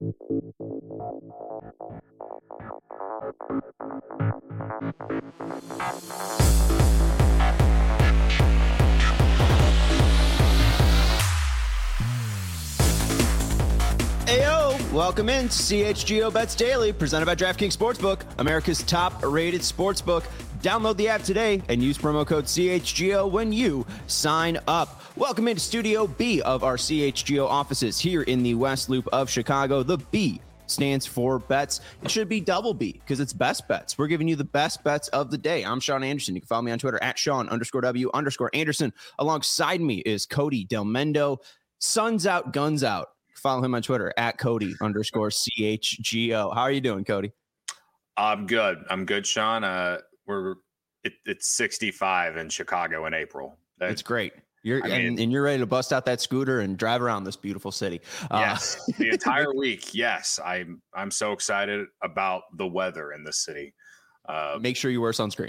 Ayo, welcome in to CHGO Bets Daily, presented by DraftKings Sportsbook, America's top-rated sportsbook. Download the app today and use promo code CHGO when you sign up. Welcome into Studio B of our CHGO offices here in the West Loop of Chicago. The B stands for bets. It should be double B because it's best bets. We're giving you the best bets of the day. I'm Sean Anderson. You can follow me on Twitter at Sean_W_Anderson. Alongside me is Cody Del Mendo. Suns out, guns out. Follow him on Twitter at Cody_CHGO. How are you doing, Cody? I'm good, Sean. It's 65 in Chicago in April. That's great. You're ready to bust out that scooter and drive around this beautiful city. Yes, the entire week. Yes, I'm so excited about the weather in this city. Make sure you wear sunscreen.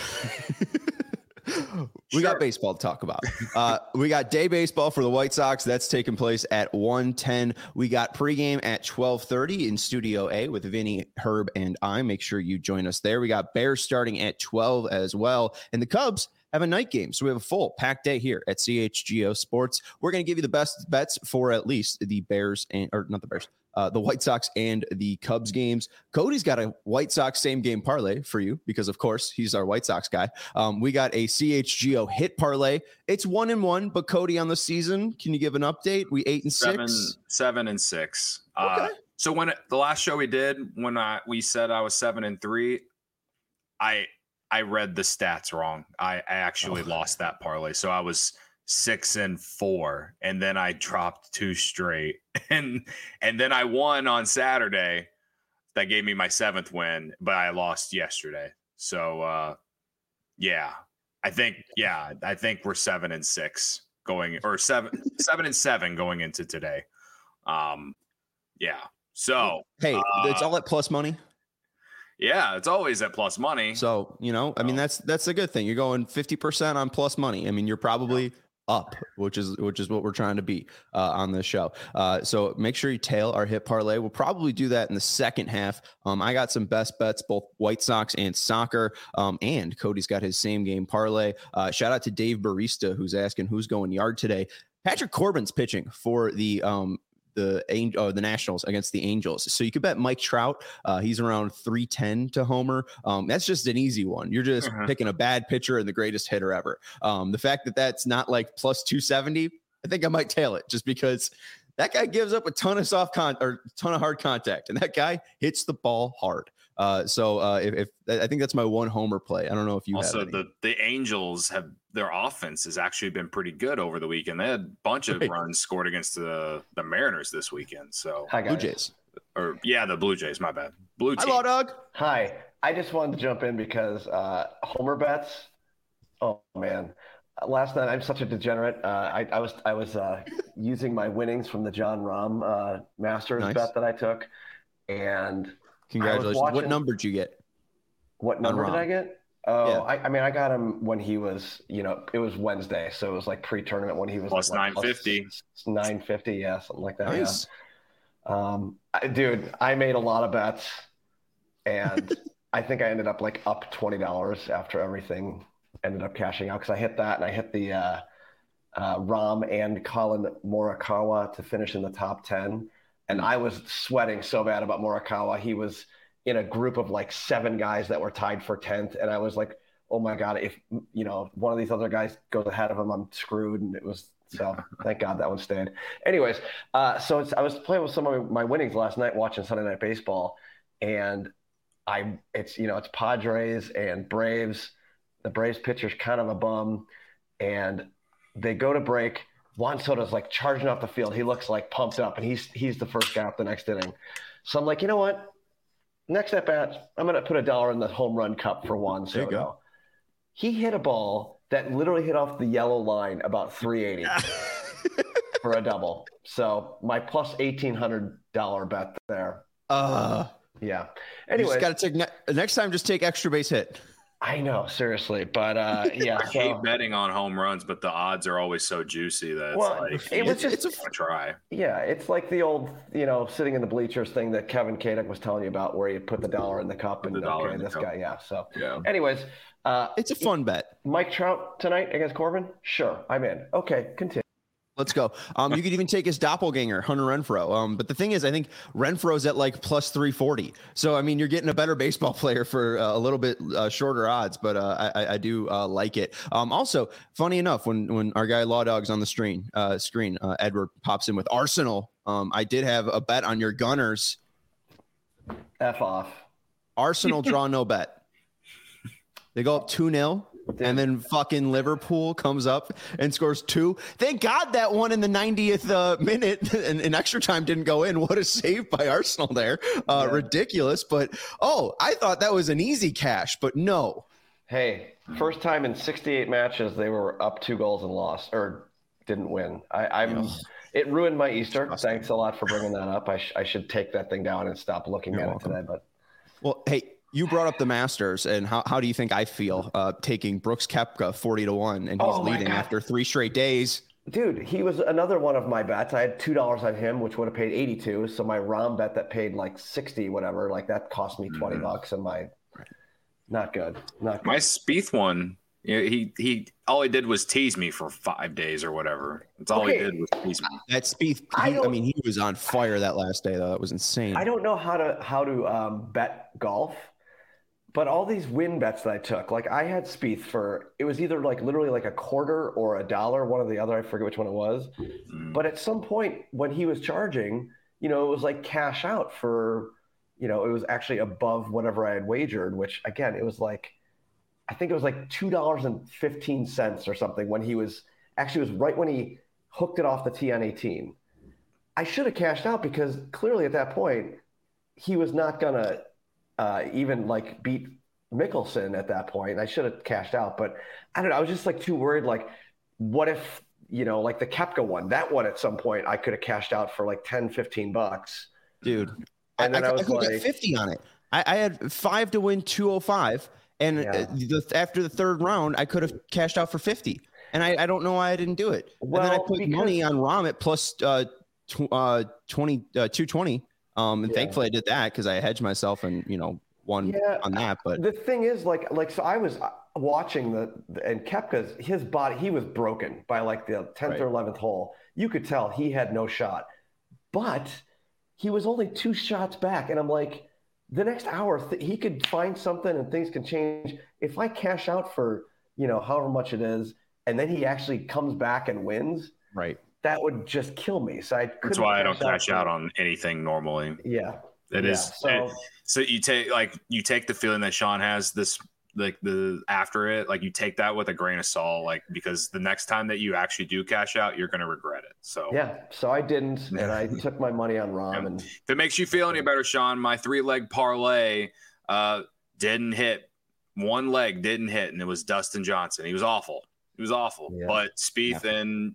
We got baseball to talk about. We got day baseball for the White Sox. That's taking place at 1:10. We got pregame at 12:30 in Studio A with Vinny, Herb, and I. Make sure you join us there. We got Bears starting at 12 as well. And the Cubs have a night game. So we have a full packed day here at CHGO Sports. We're going to give you the best bets for at least the Bears the White Sox and the Cubs games. Cody's got a White Sox same game parlay for you because, of course, he's our White Sox guy. We got a CHGO hit parlay. It's 1-1, but Cody, on the season, can you give an update? We 8-6, 7-6. Okay. So when the last show we did, when we said I was 7-3, I read the stats wrong. I actually lost that parlay. So I was 6-4, and then I dropped 2 straight, and then I won on Saturday. That gave me my 7th win, but I lost yesterday. So I think we're 7-6 going, or 7-7 going into today. So hey, it's all at plus money. Yeah, it's always at plus money. So, that's a good thing. You're going 50% on plus money. I mean, you're probably up, which is what we're trying to be on this show. So make sure you tail our hit parlay. We'll probably do that in the second half. I got some best bets, both White Sox and soccer. And Cody's got his same game parlay. Shout out to Dave Barista, who's asking who's going yard today. Patrick Corbin's pitching for the Nationals against the Angels. So you could bet Mike Trout. He's around 310 to homer. That's just an easy one. You're just picking a bad pitcher and the greatest hitter ever. The fact that that's not like plus 270, I think I might tail it just because that guy gives up a ton of ton of hard contact, and that guy hits the ball hard. If I think that's my one homer play. I don't know if you also have any. The Angels have their offense has actually been pretty good over the weekend. They had a bunch of runs scored against the Mariners this weekend. So Blue Jays. The Blue Jays. My bad. Blue team. Hello, Doug. Hi. I just wanted to jump in because homer bets. Oh man. Last night, I'm such a degenerate. I was using my winnings from the John Rahm Masters bet that I took, and congratulations. What number did you get? What number did I get? Oh, yeah. I got him when he was, it was Wednesday, so it was like pre-tournament when he was plus 950. 950, yeah, something like that. Nice. Yeah. Dude, I made a lot of bets, and I think I ended up like up $20 after everything ended up cashing out, because I hit that, and I hit the Rahm and Colin Morikawa to finish in the top 10. And I was sweating so bad about Morikawa. He was in a group of like 7 guys that were tied for 10th. And I was like, oh my God, if, one of these other guys goes ahead of him, I'm screwed. And so thank God that one stayed. Anyways, I was playing with some of my winnings last night, watching Sunday Night Baseball. And it's Padres and Braves. The Braves pitcher's kind of a bum, and they go to break. Juan Soto's like charging off the field. He looks like pumped up, and he's the first guy up the next inning. So I'm like, you know what? Next at bat, I'm going to put $1 in the home run cup for Juan Soto. There you go. He hit a ball that literally hit off the yellow line about 380 for a double. So my plus $1,800 bet there. Yeah. Anyway, you just got to take next time. Just take extra base hit. I know, seriously, but yeah. I hate betting on home runs, but the odds are always so juicy that it's a try. Yeah, it's like the old, sitting in the bleachers thing that Kevin Kadek was telling you about, where you put the dollar in the cup and guy, yeah. So, anyways, it's a fun bet. Mike Trout tonight against Corbin. Sure, I'm in. Okay, continue. Let's go. You could even take his doppelganger, Hunter Renfroe. But the thing is, I think Renfroe's at like plus 340. So, I mean, you're getting a better baseball player for a little bit shorter odds, but I do like it. Also, funny enough, when our guy Law Dog's on the screen, Edward pops in with Arsenal. I did have a bet on your Gunners. F off. Arsenal draw no bet. They go up 2-0. And then fucking Liverpool comes up and scores 2. Thank God that one in the 90th minute and extra time didn't go in. What a save by Arsenal there. Ridiculous. But, I thought that was an easy cash, but no. Hey, first time in 68 matches they were up 2 goals and lost or didn't win. It ruined my Easter. Thanks a lot for bringing that up. I should take that thing down and stop looking at it today. But well, hey, you brought up the Masters, and how do you think I feel taking Brooks Koepka 40-1, and he's leading after 3 straight days? Dude, he was another one of my bets. I had $2 on him, which would have paid 82. So my Rahm bet that paid like 60, whatever, like that cost me $20, and not good. My Spieth one, he all he did was tease me for 5 days or whatever. That's all he did was tease me. That Spieth, he was on fire that last day though. That was insane. I don't know how to bet golf. But all these win bets that I took, like I had Spieth for, it was either like literally like a quarter or $1, one or the other. I forget which one it was. But at some point when he was charging, it was like cash out for, it was actually above whatever I had wagered, which again, it was like, I think it was like $2.15 or something when he was, actually it was right when he hooked it off the tee on 18. I should have cashed out because clearly at that point, he was not going to, even like beat Mickelson at that point. I should have cashed out, but I don't know. I was just like too worried. Like, what if, like the Koepka one, that one at some point I could have cashed out for like $10-15. Dude. And then I was like 50 on it. I had 5 to win 205. And after the third round, I could have cashed out for 50. And I don't know why I didn't do it. Well, and then I put money on Rahm at plus 220. And thankfully I did that because I hedged myself and, won on that. But the thing is so I was watching and Koepka's, his body, he was broken by like the 10th or 11th hole. You could tell he had no shot, but he was only 2 shots back. And I'm like, the next hour he could find something and things can change. If I cash out for, however much it is, and then he actually comes back and wins. Right. That would just kill me. So that's why I don't cash out on anything normally. Yeah. It is. So you take the feeling that Sean has this, like the after it, like you take that with a grain of salt, like, because the next time that you actually do cash out, you're going to regret it. So so I didn't, and I took my money on Rahm. And if it makes you feel any better, Sean, my 3-leg parlay didn't hit. 1 leg didn't hit, and it was Dustin Johnson. He was awful. Yeah. But Spieth and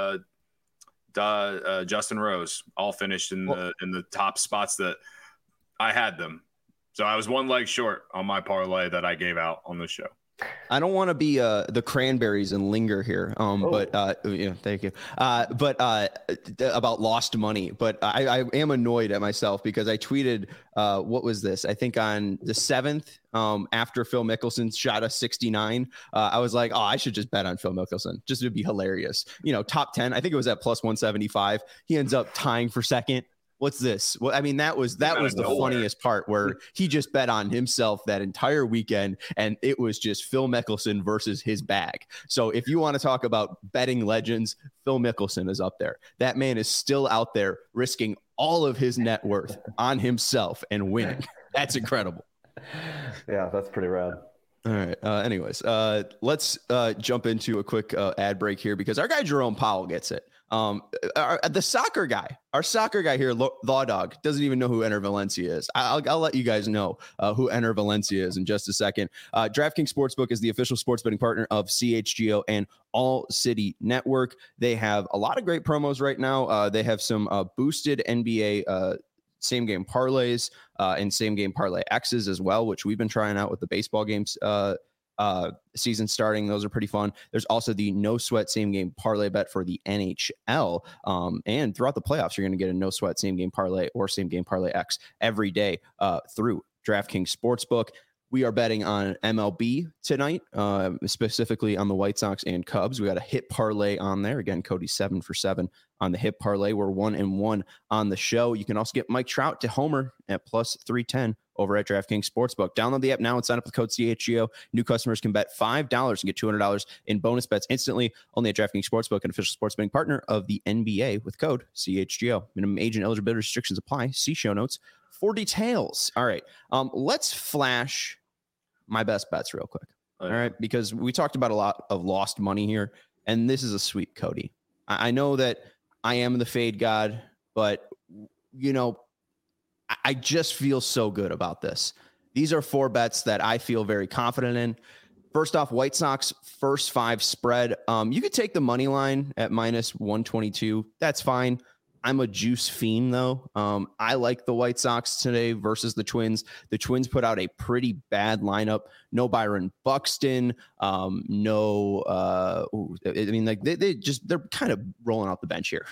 Justin Rose all finished in the top spots that I had them. So I was 1 leg short on my parlay that I gave out on the show. I don't want to be the Cranberries and linger here, but thank you. But about lost money. But I am annoyed at myself because I tweeted what was this? I think on the 7th, after Phil Mickelson shot a 69, I was like, I should just bet on Phil Mickelson. Just to be hilarious. Top 10. I think it was at plus 175. He ends up tying for second. What's this? Well, I mean, that was the funniest part where he just bet on himself that entire weekend, and it was just Phil Mickelson versus his bag. So if you want to talk about betting legends, Phil Mickelson is up there. That man is still out there risking all of his net worth on himself and winning. That's incredible. Yeah, that's pretty rad. All right. Anyways, let's jump into a quick ad break here because our guy Jerome Powell gets it. The soccer guy, our soccer guy here, Law Dog, doesn't even know who Enter Valencia is. I'll let you guys know who Enter Valencia is in just a second. DraftKings Sportsbook is the official sports betting partner of CHGO and All City Network. They have a lot of great promos right now. They have some boosted NBA same game parlays and same game parlay X's as well, which we've been trying out with the baseball games season starting. Those are pretty fun. There's also the no sweat same game parlay bet for the NHL. And throughout the playoffs, you're going to get a no sweat same game parlay or same game parlay X every day through DraftKings Sportsbook. We are betting on MLB tonight, specifically on the White Sox and Cubs. We got a hit parlay on there. Again, Cody 7 for 7 on the hit parlay. We're 1-1 on the show. You can also get Mike Trout to homer at plus 310 over at DraftKings Sportsbook. Download the app now and sign up with code CHGO. New customers can bet $5 and get $200 in bonus bets instantly. Only at DraftKings Sportsbook, an official sports betting partner of the NBA with code CHGO. Minimum age and eligibility restrictions apply. See show notes for details. All right. Let's flash my best bets real quick. All right. Because we talked about a lot of lost money here, and this is a sweep, Cody. I know that I am the fade god, but I just feel so good about this. These are 4 bets that I feel very confident in. First off, White Sox first 5 spread. You could take the money line at minus 122. That's fine. I'm a juice fiend, though. I like the White Sox today versus the Twins. The Twins put out a pretty bad lineup. No Byron Buxton. They're kind of rolling out the bench here.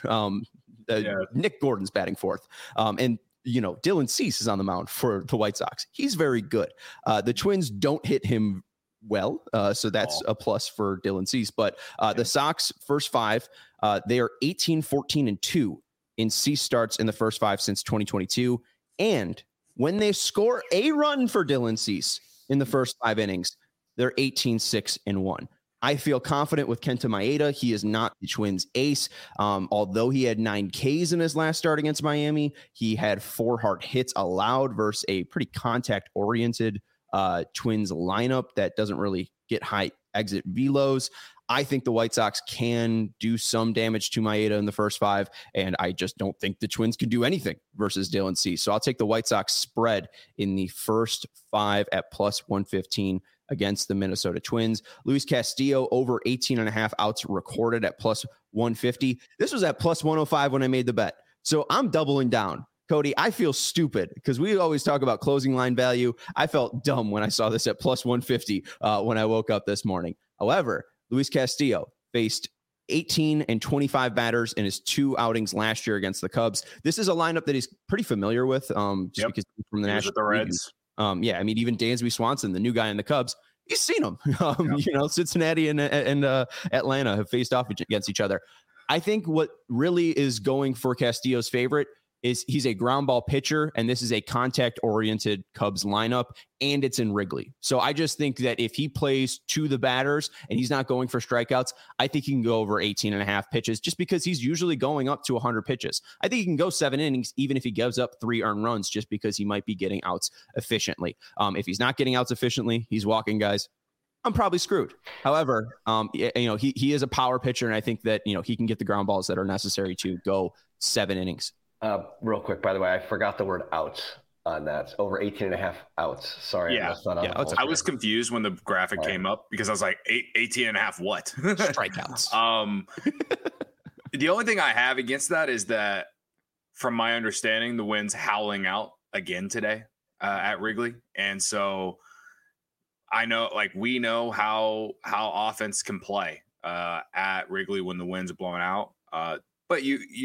Nick Gordon's batting fourth. And Dylan Cease is on the mound for the White Sox. He's very good. The Twins don't hit him well, so that's a plus for Dylan Cease. But the Sox first 5, they are 18-14-2 in Cease starts in the first 5 since 2022. And when they score a run for Dylan Cease in the first 5 innings, they're 18-6-1. I feel confident with Kenta Maeda. He is not the Twins ace. Although he had 9 Ks in his last start against Miami, he had 4 hard hits allowed versus a pretty contact-oriented Twins lineup that doesn't really get high exit velos. I think the White Sox can do some damage to Maeda in the first 5, and I just don't think the Twins can do anything versus Dylan Cease. So I'll take the White Sox spread in the first 5 at plus 115 against the Minnesota Twins. Luis Castillo over 18.5 outs recorded at plus 150. This was at plus 105 when I made the bet. So I'm doubling down. Cody, I feel stupid because we always talk about closing line value. I felt dumb when I saw this at plus 150 when I woke up this morning. However, Luis Castillo faced 18 and 25 batters in his 2 outings last year against the Cubs. This is a lineup that he's pretty familiar with because he's from the National Reds. Even Dansby Swanson, the new guy in the Cubs, he's seen him. Cincinnati and Atlanta have faced off against each other. I think what really is going for Castillo's favorite is he's a ground ball pitcher, and this is a contact-oriented Cubs lineup, and it's in Wrigley. So I just think that if he plays to the batters and he's not going for strikeouts, I think he can go over 18.5 pitches just because he's usually going up to 100 pitches. I think he can go 7 innings even if he gives up 3 earned runs just because he might be getting outs efficiently. If he's not getting outs efficiently, he's walking guys. I'm probably screwed. However, he is a power pitcher, and I think that he can get the ground balls that are necessary to go 7 innings. Real quick, by the way, I forgot the word outs on that. Over 18.5 outs. Sorry. Yeah. I was confused when the graphic came up because I was like, 18.5 what? Strikeouts. The only thing I have against that is that, from my understanding, the wind's howling out again today at Wrigley. And so I know, we know how offense can play at Wrigley when the wind's blowing out. But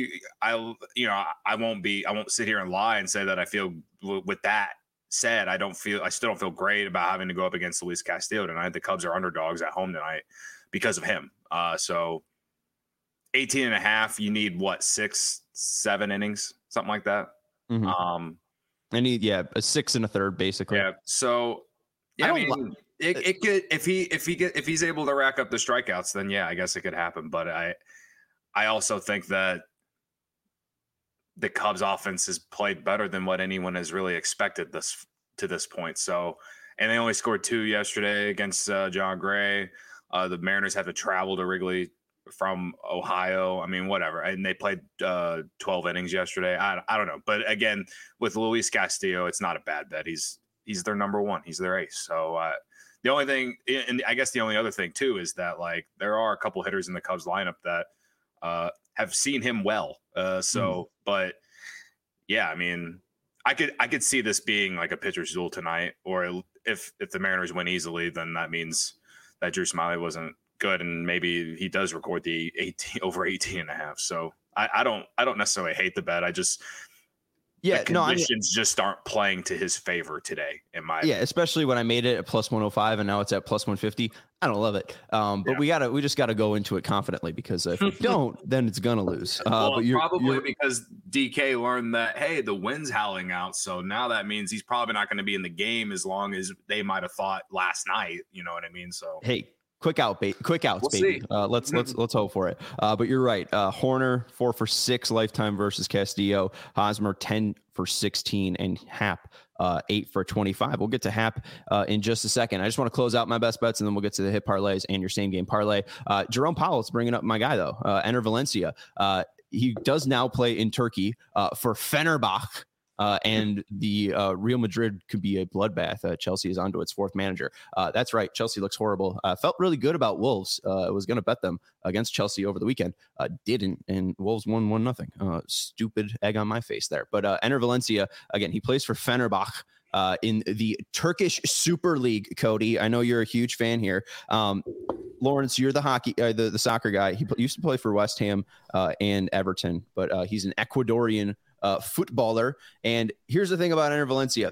I won't sit here and lie and say that I feel. With that said, I still don't feel great about having to go up against Luis Castillo tonight. The Cubs are underdogs at home tonight because of him. So 18.5, you need 6-7 innings, something like that. Mm-hmm. I need a 6 1/3 basically. Yeah. So it could if he's able to rack up the strikeouts, then I guess it could happen. But I also think that the Cubs offense has played better than what anyone has really expected to this point. So, and they only scored 2 yesterday against John Gray. The Mariners had to travel to Wrigley from Ohio. I mean, whatever. And they played 12 innings yesterday. I don't know. But again, with Luis Castillo, it's not a bad bet. He's their number 1. He's their ace. So the only thing, and I guess the only other thing too, is that there are a couple hitters in the Cubs lineup that have seen him well. But yeah, I mean, I could see this being like a pitcher's duel tonight, or if the Mariners win easily, then that means that Drew Smyly wasn't good, and maybe he does record the 18.5. So I don't necessarily hate the bet. I just the conditions just aren't playing to his favor today, in my opinion. Especially when I made it at plus 105 and now it's at plus 150. I don't love it. But we just gotta go into it confidently, because if we don't, then it's gonna lose. But you're because DK learned that, hey, the wind's howling out, so now that means he's probably not going to be in the game as long as they might have thought last night. You know what I mean? So hey. Quick outs, baby. Let's hope for it. But you're right. Horner 4 for 6 lifetime versus Castillo. Hosmer 10 for 16, and Happ 8 for 25. We'll get to Happ in just a second. I just want to close out my best bets, and then we'll get to the hit parlays and your same game parlay. Jerome Powell's bringing up my guy though. Enter Valencia. He does now play in Turkey for Fenerbahce. And the Real Madrid could be a bloodbath. Chelsea is onto its 4th manager. That's right. Chelsea looks horrible. Felt really good about Wolves. I was going to bet them against Chelsea over the weekend. Didn't. And Wolves won 1-0. Stupid egg on my face there. But Enter Valencia, again, he plays for Fenerbahce in the Turkish Super League, Cody. I know you're a huge fan here. Lawrence, you're the hockey, the soccer guy. He used to play for West Ham and Everton, but he's an Ecuadorian footballer. And here's the thing about Enter Valencia.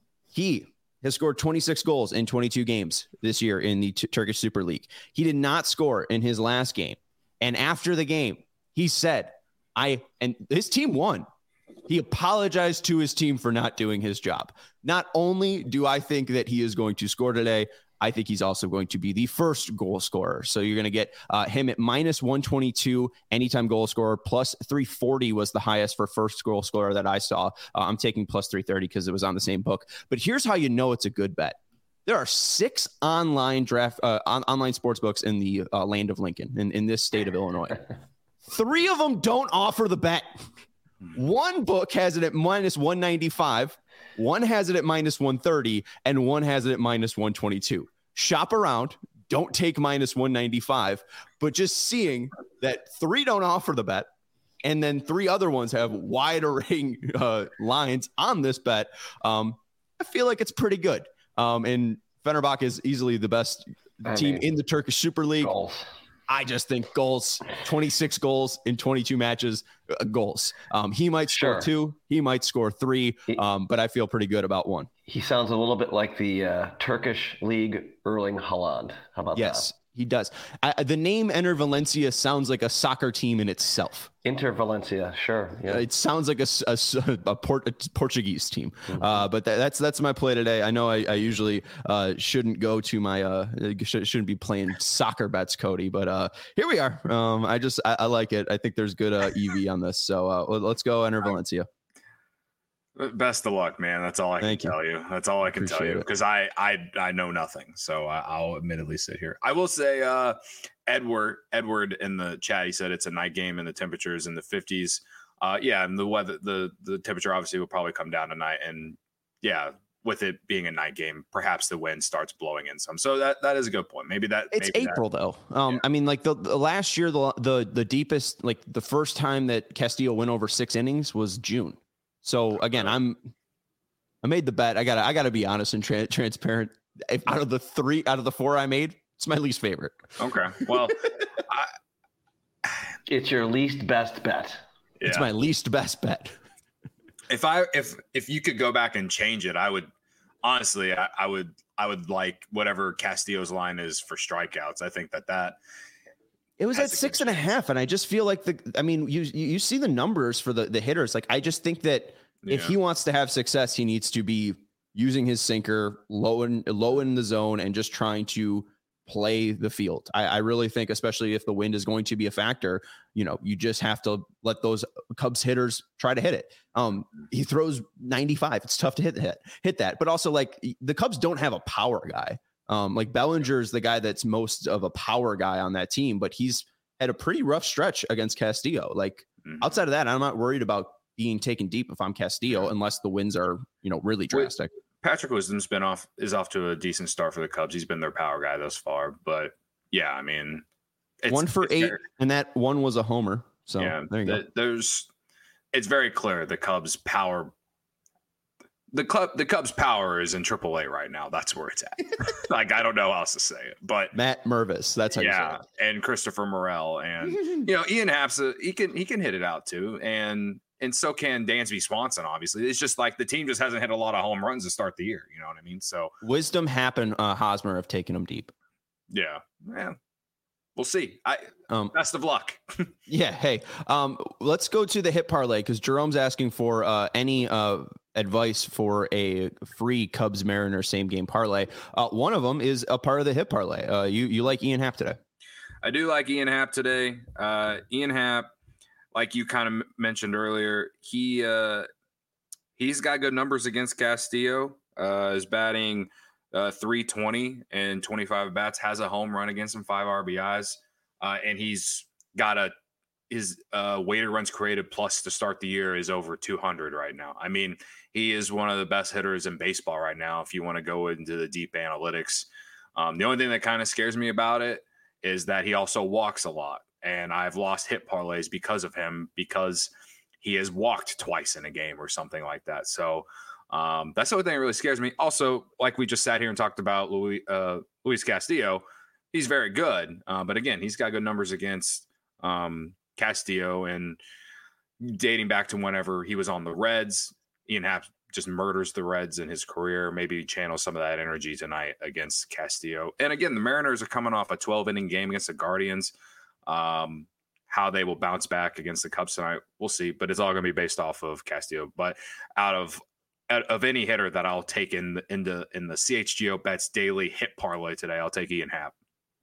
He has scored 26 goals in 22 games this year in the Turkish Super League. He did not score in his last game. And after the game, he said, and his team won. He apologized to his team for not doing his job. Not only do I think that he is going to score today, I think he's also going to be the first goal scorer. So you're going to get him at minus 122 anytime goal scorer. Plus 340 was the highest for first goal scorer that I saw. I'm taking plus 330 because it was on the same book. But here's how you know it's a good bet. There are 6 online online sports books in the land of Lincoln, in this state of Illinois. 3 of them don't offer the bet. One book has it at minus 195. One has it at minus 130, and one has it at minus 122. Shop around. Don't take minus 195, but just seeing that 3 don't offer the bet, and then 3 other ones have wider lines on this bet, I feel like it's pretty good. And Fenerbahce is easily the best team in the Turkish Super League. Goals. I just think goals, 26 goals in 22 matches, goals. He might score 2, he might score 3, but I feel pretty good about 1. He sounds a little bit like the Turkish league Erling Haaland. How about that? Yes, he does. The name Enter Valencia sounds like a soccer team in itself. Inter Valencia, sure. Yeah. It sounds like a Portuguese team. But that's my play today. I know I usually shouldn't go to my shouldn't be playing soccer bets, Cody. But here we are. I like it. I think there's good EV on this. So let's go Enter Valencia. Best of luck, man. That's all I can tell you. That's all I can tell you, because I know nothing. So I'll admittedly sit here. I will say Edward in the chat, he said it's a night game and the temperatures in the 50s. And the weather, the temperature obviously will probably come down tonight. And with it being a night game, perhaps the wind starts blowing in some. So that is a good point. Maybe April though. I mean, like the last year, the deepest, like the first time that Castillo went over 6 innings was June. So again, I made the bet. I gotta be honest and transparent. Out of the 4 I made, it's my least favorite. Okay. Well, it's your least best bet. Yeah. It's my least best bet. If you could go back and change it, I would honestly, I would like whatever Castillo's line is for strikeouts. I think that it was at 6.5, and I just feel like you see the numbers for the hitters. Like I just think that if he wants to have success, he needs to be using his sinker low in the zone and just trying to play the field. I really think, especially if the wind is going to be a factor, you just have to let those Cubs hitters try to hit it. He throws 95. It's tough to hit that, but also like the Cubs don't have a power guy. Like Bellinger's the guy that's most of a power guy on that team, but he's had a pretty rough stretch against Castillo. Like outside of that, I'm not worried about being taken deep if I'm Castillo, unless the wins are, really drastic. Patrick Wisdom's is off to a decent start for the Cubs. He's been their power guy thus far, but I mean, 1 for 8, and that one was a homer. So there you go. It's very clear the Cubs power the Cubs' power is in AAA right now. That's where it's at. Like, I don't know how else to say it, but Matt Mervis. That's how you say it. And Christopher Morel, and Ian Happ's he can hit it out too, and so can Dansby Swanson. Obviously, it's just like the team just hasn't hit a lot of home runs to start the year. You know what I mean? So Wisdom, Happ, and Hosmer have taken them deep. Yeah. We'll see. Best of luck. Yeah. Hey, let's go to the hit parlay because Jerome's asking for any advice for a free Cubs Mariners same game parlay. One of them is a part of the hit parlay. You like Ian Happ today? I do like Ian Happ today. Ian Happ, like you kind of mentioned earlier, he's got good numbers against Castillo. Is batting 320 and 25 bats, has a home run against him, 5 RBIs, and he's got his weighted runs created plus to start the year is over 200 right now. I mean, he is one of the best hitters in baseball right now if you want to go into the deep analytics. The only thing that kind of scares me about it is that he also walks a lot, and I've lost hit parlays because of him, because he has walked twice in a game or something like that. So that's the only thing that really scares me. Also, like we just sat here and talked about Luis Castillo, he's very good. But again, he's got good numbers against Castillo, and dating back to whenever he was on the Reds, Ian Happ just murders the Reds in his career. Maybe channel some of that energy tonight against Castillo. And again, the Mariners are coming off a 12-inning game against the Guardians. How they will bounce back against the Cubs tonight, we'll see. But it's all going to be based off of Castillo. But out of any hitter that I'll take in the CHGO Bets daily hit parlay today, I'll take Ian Happ.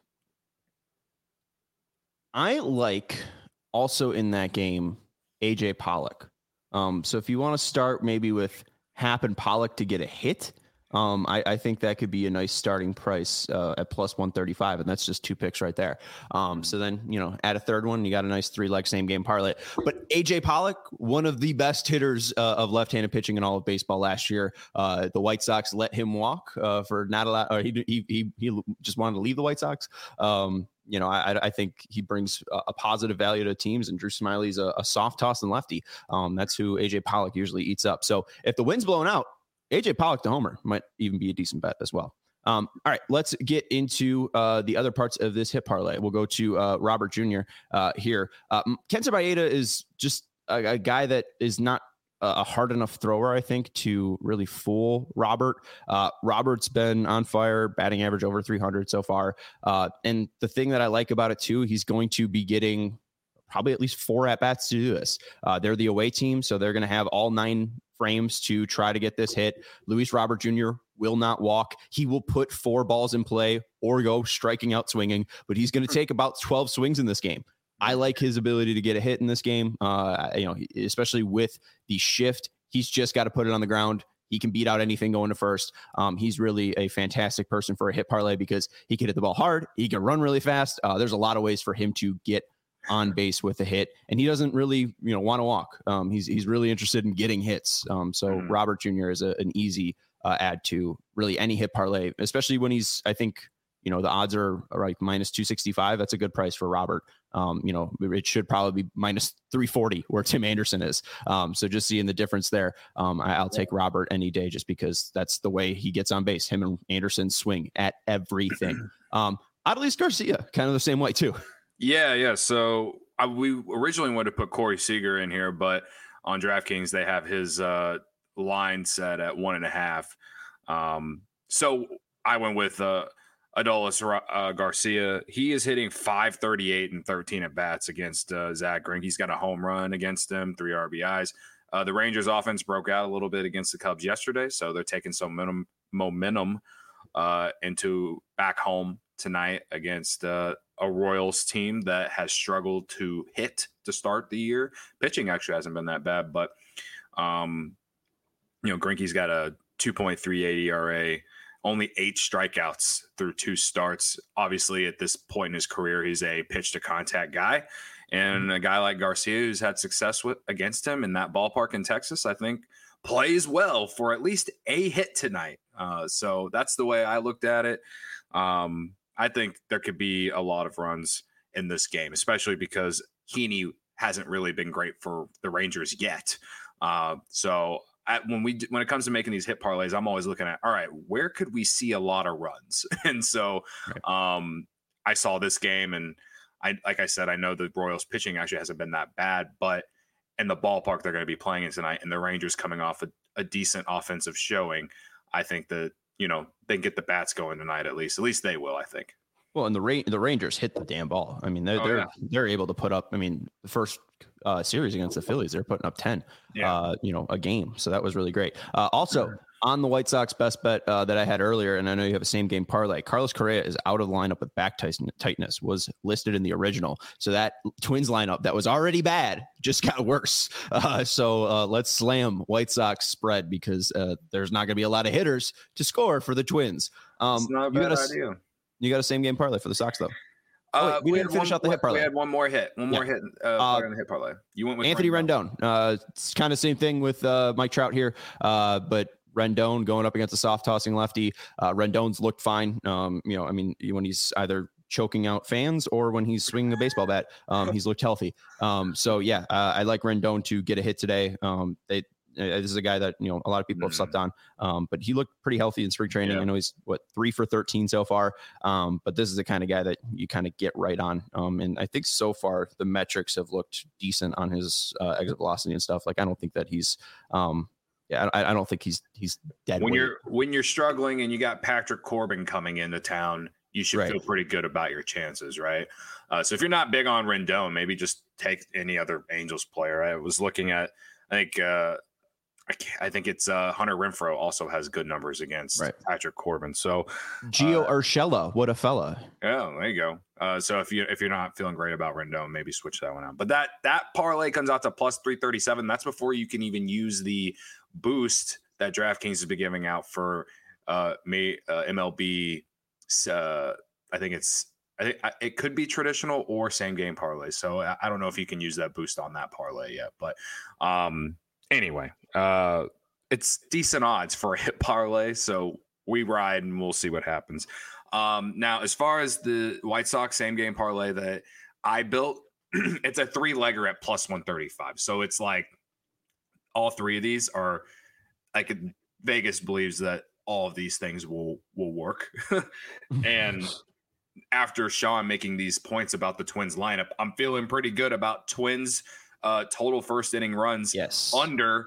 I like also in that game AJ Pollock. So if you want to start maybe with Happ and Pollock to get a hit, I think that could be a nice starting price at plus 135, and that's just 2 picks right there. So then, add a third one, you got a nice 3-leg same game parlay. But AJ Pollock, one of the best hitters of left-handed pitching in all of baseball last year. The White Sox let him walk for not a lot, or he just wanted to leave the White Sox. I think he brings a positive value to teams, and Drew Smiley's a soft toss and lefty. That's who AJ Pollock usually eats up. So if the wind's blowing out, AJ Pollock to homer might even be a decent bet as well. All right, let's get into the other parts of this hit parlay. We'll go to Robert Jr. Here. Kenta Maeda is just a guy that is not a hard enough thrower, I think, to really fool Robert. Robert's been on fire, batting average over 300 so far. And the thing that I like about it, too, he's going to be getting probably at least 4 at-bats to do this. They're the away team, so they're going to have all 9 frames to try to get this hit. Luis Robert Jr. will not walk. He will put 4 balls in play or go striking out swinging, but he's going to take about 12 swings in this game. I like his ability to get a hit in this game, especially with the shift. He's just got to put it on the ground. He can beat out anything going to first. He's really a fantastic person for a hit parlay because he can hit the ball hard. He can run really fast. There's a lot of ways for him to get on base with a hit, and he doesn't really, want to walk. He's really interested in getting hits. So Robert Jr. is an easy add to really any hit parlay, especially when he's, I think, the odds are like minus 265. That's a good price for Robert. It should probably be minus 340 where Tim Anderson is. So just seeing the difference there, I'll take Robert any day just because that's the way he gets on base. Him and Anderson swing at everything. Adolis Garcia, kind of the same way too. Yeah. So we originally wanted to put Corey Seager in here, but on DraftKings, they have his line set at 1.5. So I went with Adolis Garcia. He is hitting .538 and 13 at bats against Zach Greinke. He's got a home run against him, 3 RBIs. The Rangers offense broke out a little bit against the Cubs yesterday, so they're taking some momentum into back home tonight against a Royals team that has struggled to hit to start the year. Pitching actually hasn't been that bad, but Greinke's got a 2.38 ERA. Only 8 strikeouts through 2 starts. Obviously, at this point in his career, he's a pitch-to-contact guy. And a guy like Garcia, who's had success against him in that ballpark in Texas, I think plays well for at least a hit tonight. So that's the way I looked at it. I think there could be a lot of runs in this game, especially because Heaney hasn't really been great for the Rangers yet. So when it comes to making these hit parlays, I'm always looking at, all right, where could we see a lot of runs? And so I saw this game, and like I said, I know the Royals pitching actually hasn't been that bad, but in the ballpark they're going to be playing in tonight, and the Rangers coming off a decent offensive showing, I think that, they can get the bats going tonight at least. At least they will, I think. Well, and the Rangers hit the damn ball. I mean, they're able to put up. I mean, the first series against the Phillies, they're putting up 10, a game. So that was really great. Also, on the White Sox best bet that I had earlier, and I know you have a same game parlay, Carlos Correa is out of the lineup with back tightness, was listed in the original. So that Twins lineup that was already bad just got worse. So let's slam White Sox spread, because there's not going to be a lot of hitters to score for the Twins. It's not a bad idea. You got a same game parlay for the Sox, though. We didn't finish out the hit parlay. We had one more hit. On the hit parlay. You went with Anthony Rendon. It's kind of same thing with Mike Trout here, but Rendon going up against a soft tossing lefty. Rendon's looked fine. When he's either choking out fans or when he's swinging a baseball bat, he's looked healthy. I like Rendon to get a hit today. This is a guy that, a lot of people have slept on, but he looked pretty healthy in spring training. I know he's 3 for 13 so far. But this is the kind of guy that you kind of get right on. And I think so far the metrics have looked decent on his exit velocity and stuff. Like, I don't think that he's, I don't think he's dead. When you're struggling and you got Patrick Corbin coming into town, you should feel pretty good about your chances, right? So if you're not big on Rendon, maybe just take any other Angels player. I was looking at, I think it's Hunter Renfroe also has good numbers against Patrick Corbin. So Gio Urshela, what a fella! Yeah, there you go. So if you're not feeling great about Rendon, maybe switch that one out. But that parlay comes out to plus 337. That's before you can even use the boost that DraftKings has been giving out for MLB. I think it could be traditional or same game parlay. So I don't know if you can use that boost on that parlay yet, but anyway, it's decent odds for a hit parlay, so we ride and we'll see what happens. Now, as far as the White Sox same game parlay that I built, it's a 3-legger at plus 135. So it's like all three of these are like Vegas believes that all of these things will work. And after Sean making these points about the Twins lineup, I'm feeling pretty good about Twins total first inning runs under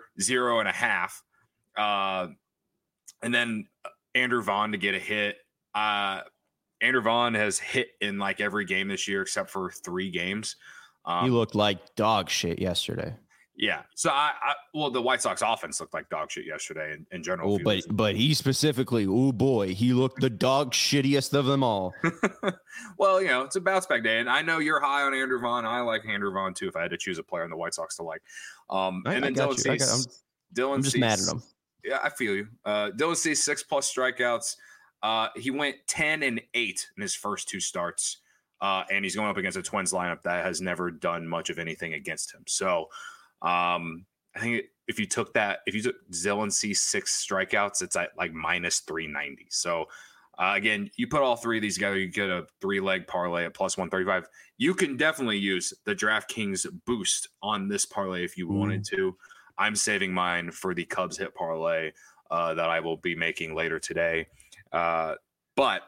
0.5. And then Andrew Vaughn to get a hit. Andrew Vaughn has hit in like every game this year except for 3 games. He looked like dog shit yesterday. Yeah. So the White Sox offense looked like dog shit yesterday in general. But he specifically, he looked the dog shittiest of them all. Well, it's a bounce back day, and I know you're high on Andrew Vaughn. I like Andrew Vaughn too. If I had to choose a player in the White Sox to like, and then Dylan Cease. I'm just mad at him. Yeah, I feel you. Dylan Cease 6+ strikeouts. He went 10-8 in his first 2 starts, and he's going up against a Twins lineup that has never done much of anything against him. So. I think if you took Dylan Cease 6 strikeouts, it's at like minus 390. So again, you put all 3 of these together, you get a 3-leg parlay at plus 135. You can definitely use the DraftKings boost on this parlay if you wanted to. I'm saving mine for the Cubs hit parlay that I will be making later today. So plus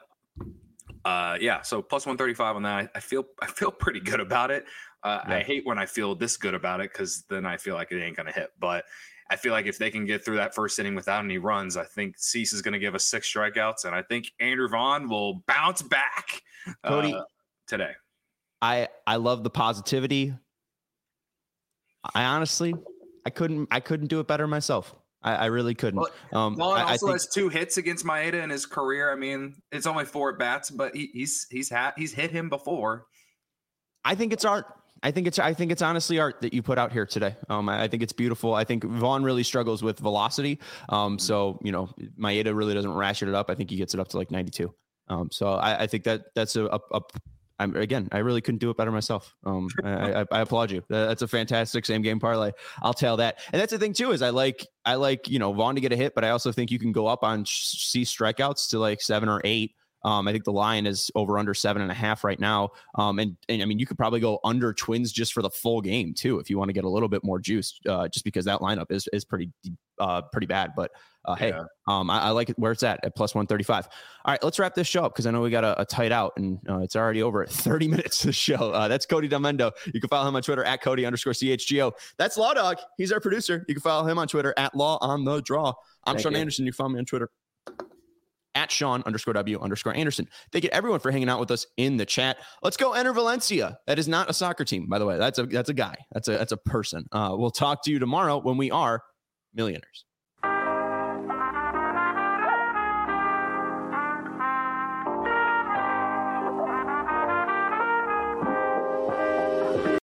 135 on that. I feel pretty good about it. I hate when I feel this good about it because then I feel like it ain't going to hit. But I feel like if they can get through that first inning without any runs, I think Cease is going to give us 6 strikeouts. And I think Andrew Vaughn will bounce back Cody, today. I love the positivity. I couldn't do it better myself. I really couldn't. Vaughn also has 2 hits against Maeda in his career. I mean, it's only 4 at bats, but he's hit him before. I think it's art. I think it's honestly art that you put out here today. I think it's beautiful. I think Vaughn really struggles with velocity. So Maeda really doesn't ratchet it up. I think he gets it up to like 92. So I think that's I really couldn't do it better myself. I applaud you. That's a fantastic same game parlay. I'll tell that. And that's the thing too, is I like Vaughn to get a hit, but I also think you can go up on C strikeouts to like 7 or 8. I think the line is over under 7.5 right now. And I mean, you could probably go under Twins just for the full game too, if you want to get a little bit more juice, just because that lineup is pretty bad. But hey, I like it where it's at plus 135. All right, let's wrap this show up because I know we got a tight out and it's already over at 30 minutes of the show. That's Cody Delmendo. You can follow him on Twitter at Cody_CHGO. That's Law Dog. He's our producer. You can follow him on Twitter at Law on the Draw. I'm Sean Anderson. You can follow me on Twitter at Sean_W_Anderson. Thank you everyone for hanging out with us in the chat. Let's go enter Valencia. That is not a soccer team, by the way. That's a guy. That's a person. We'll talk to you tomorrow when we are millionaires.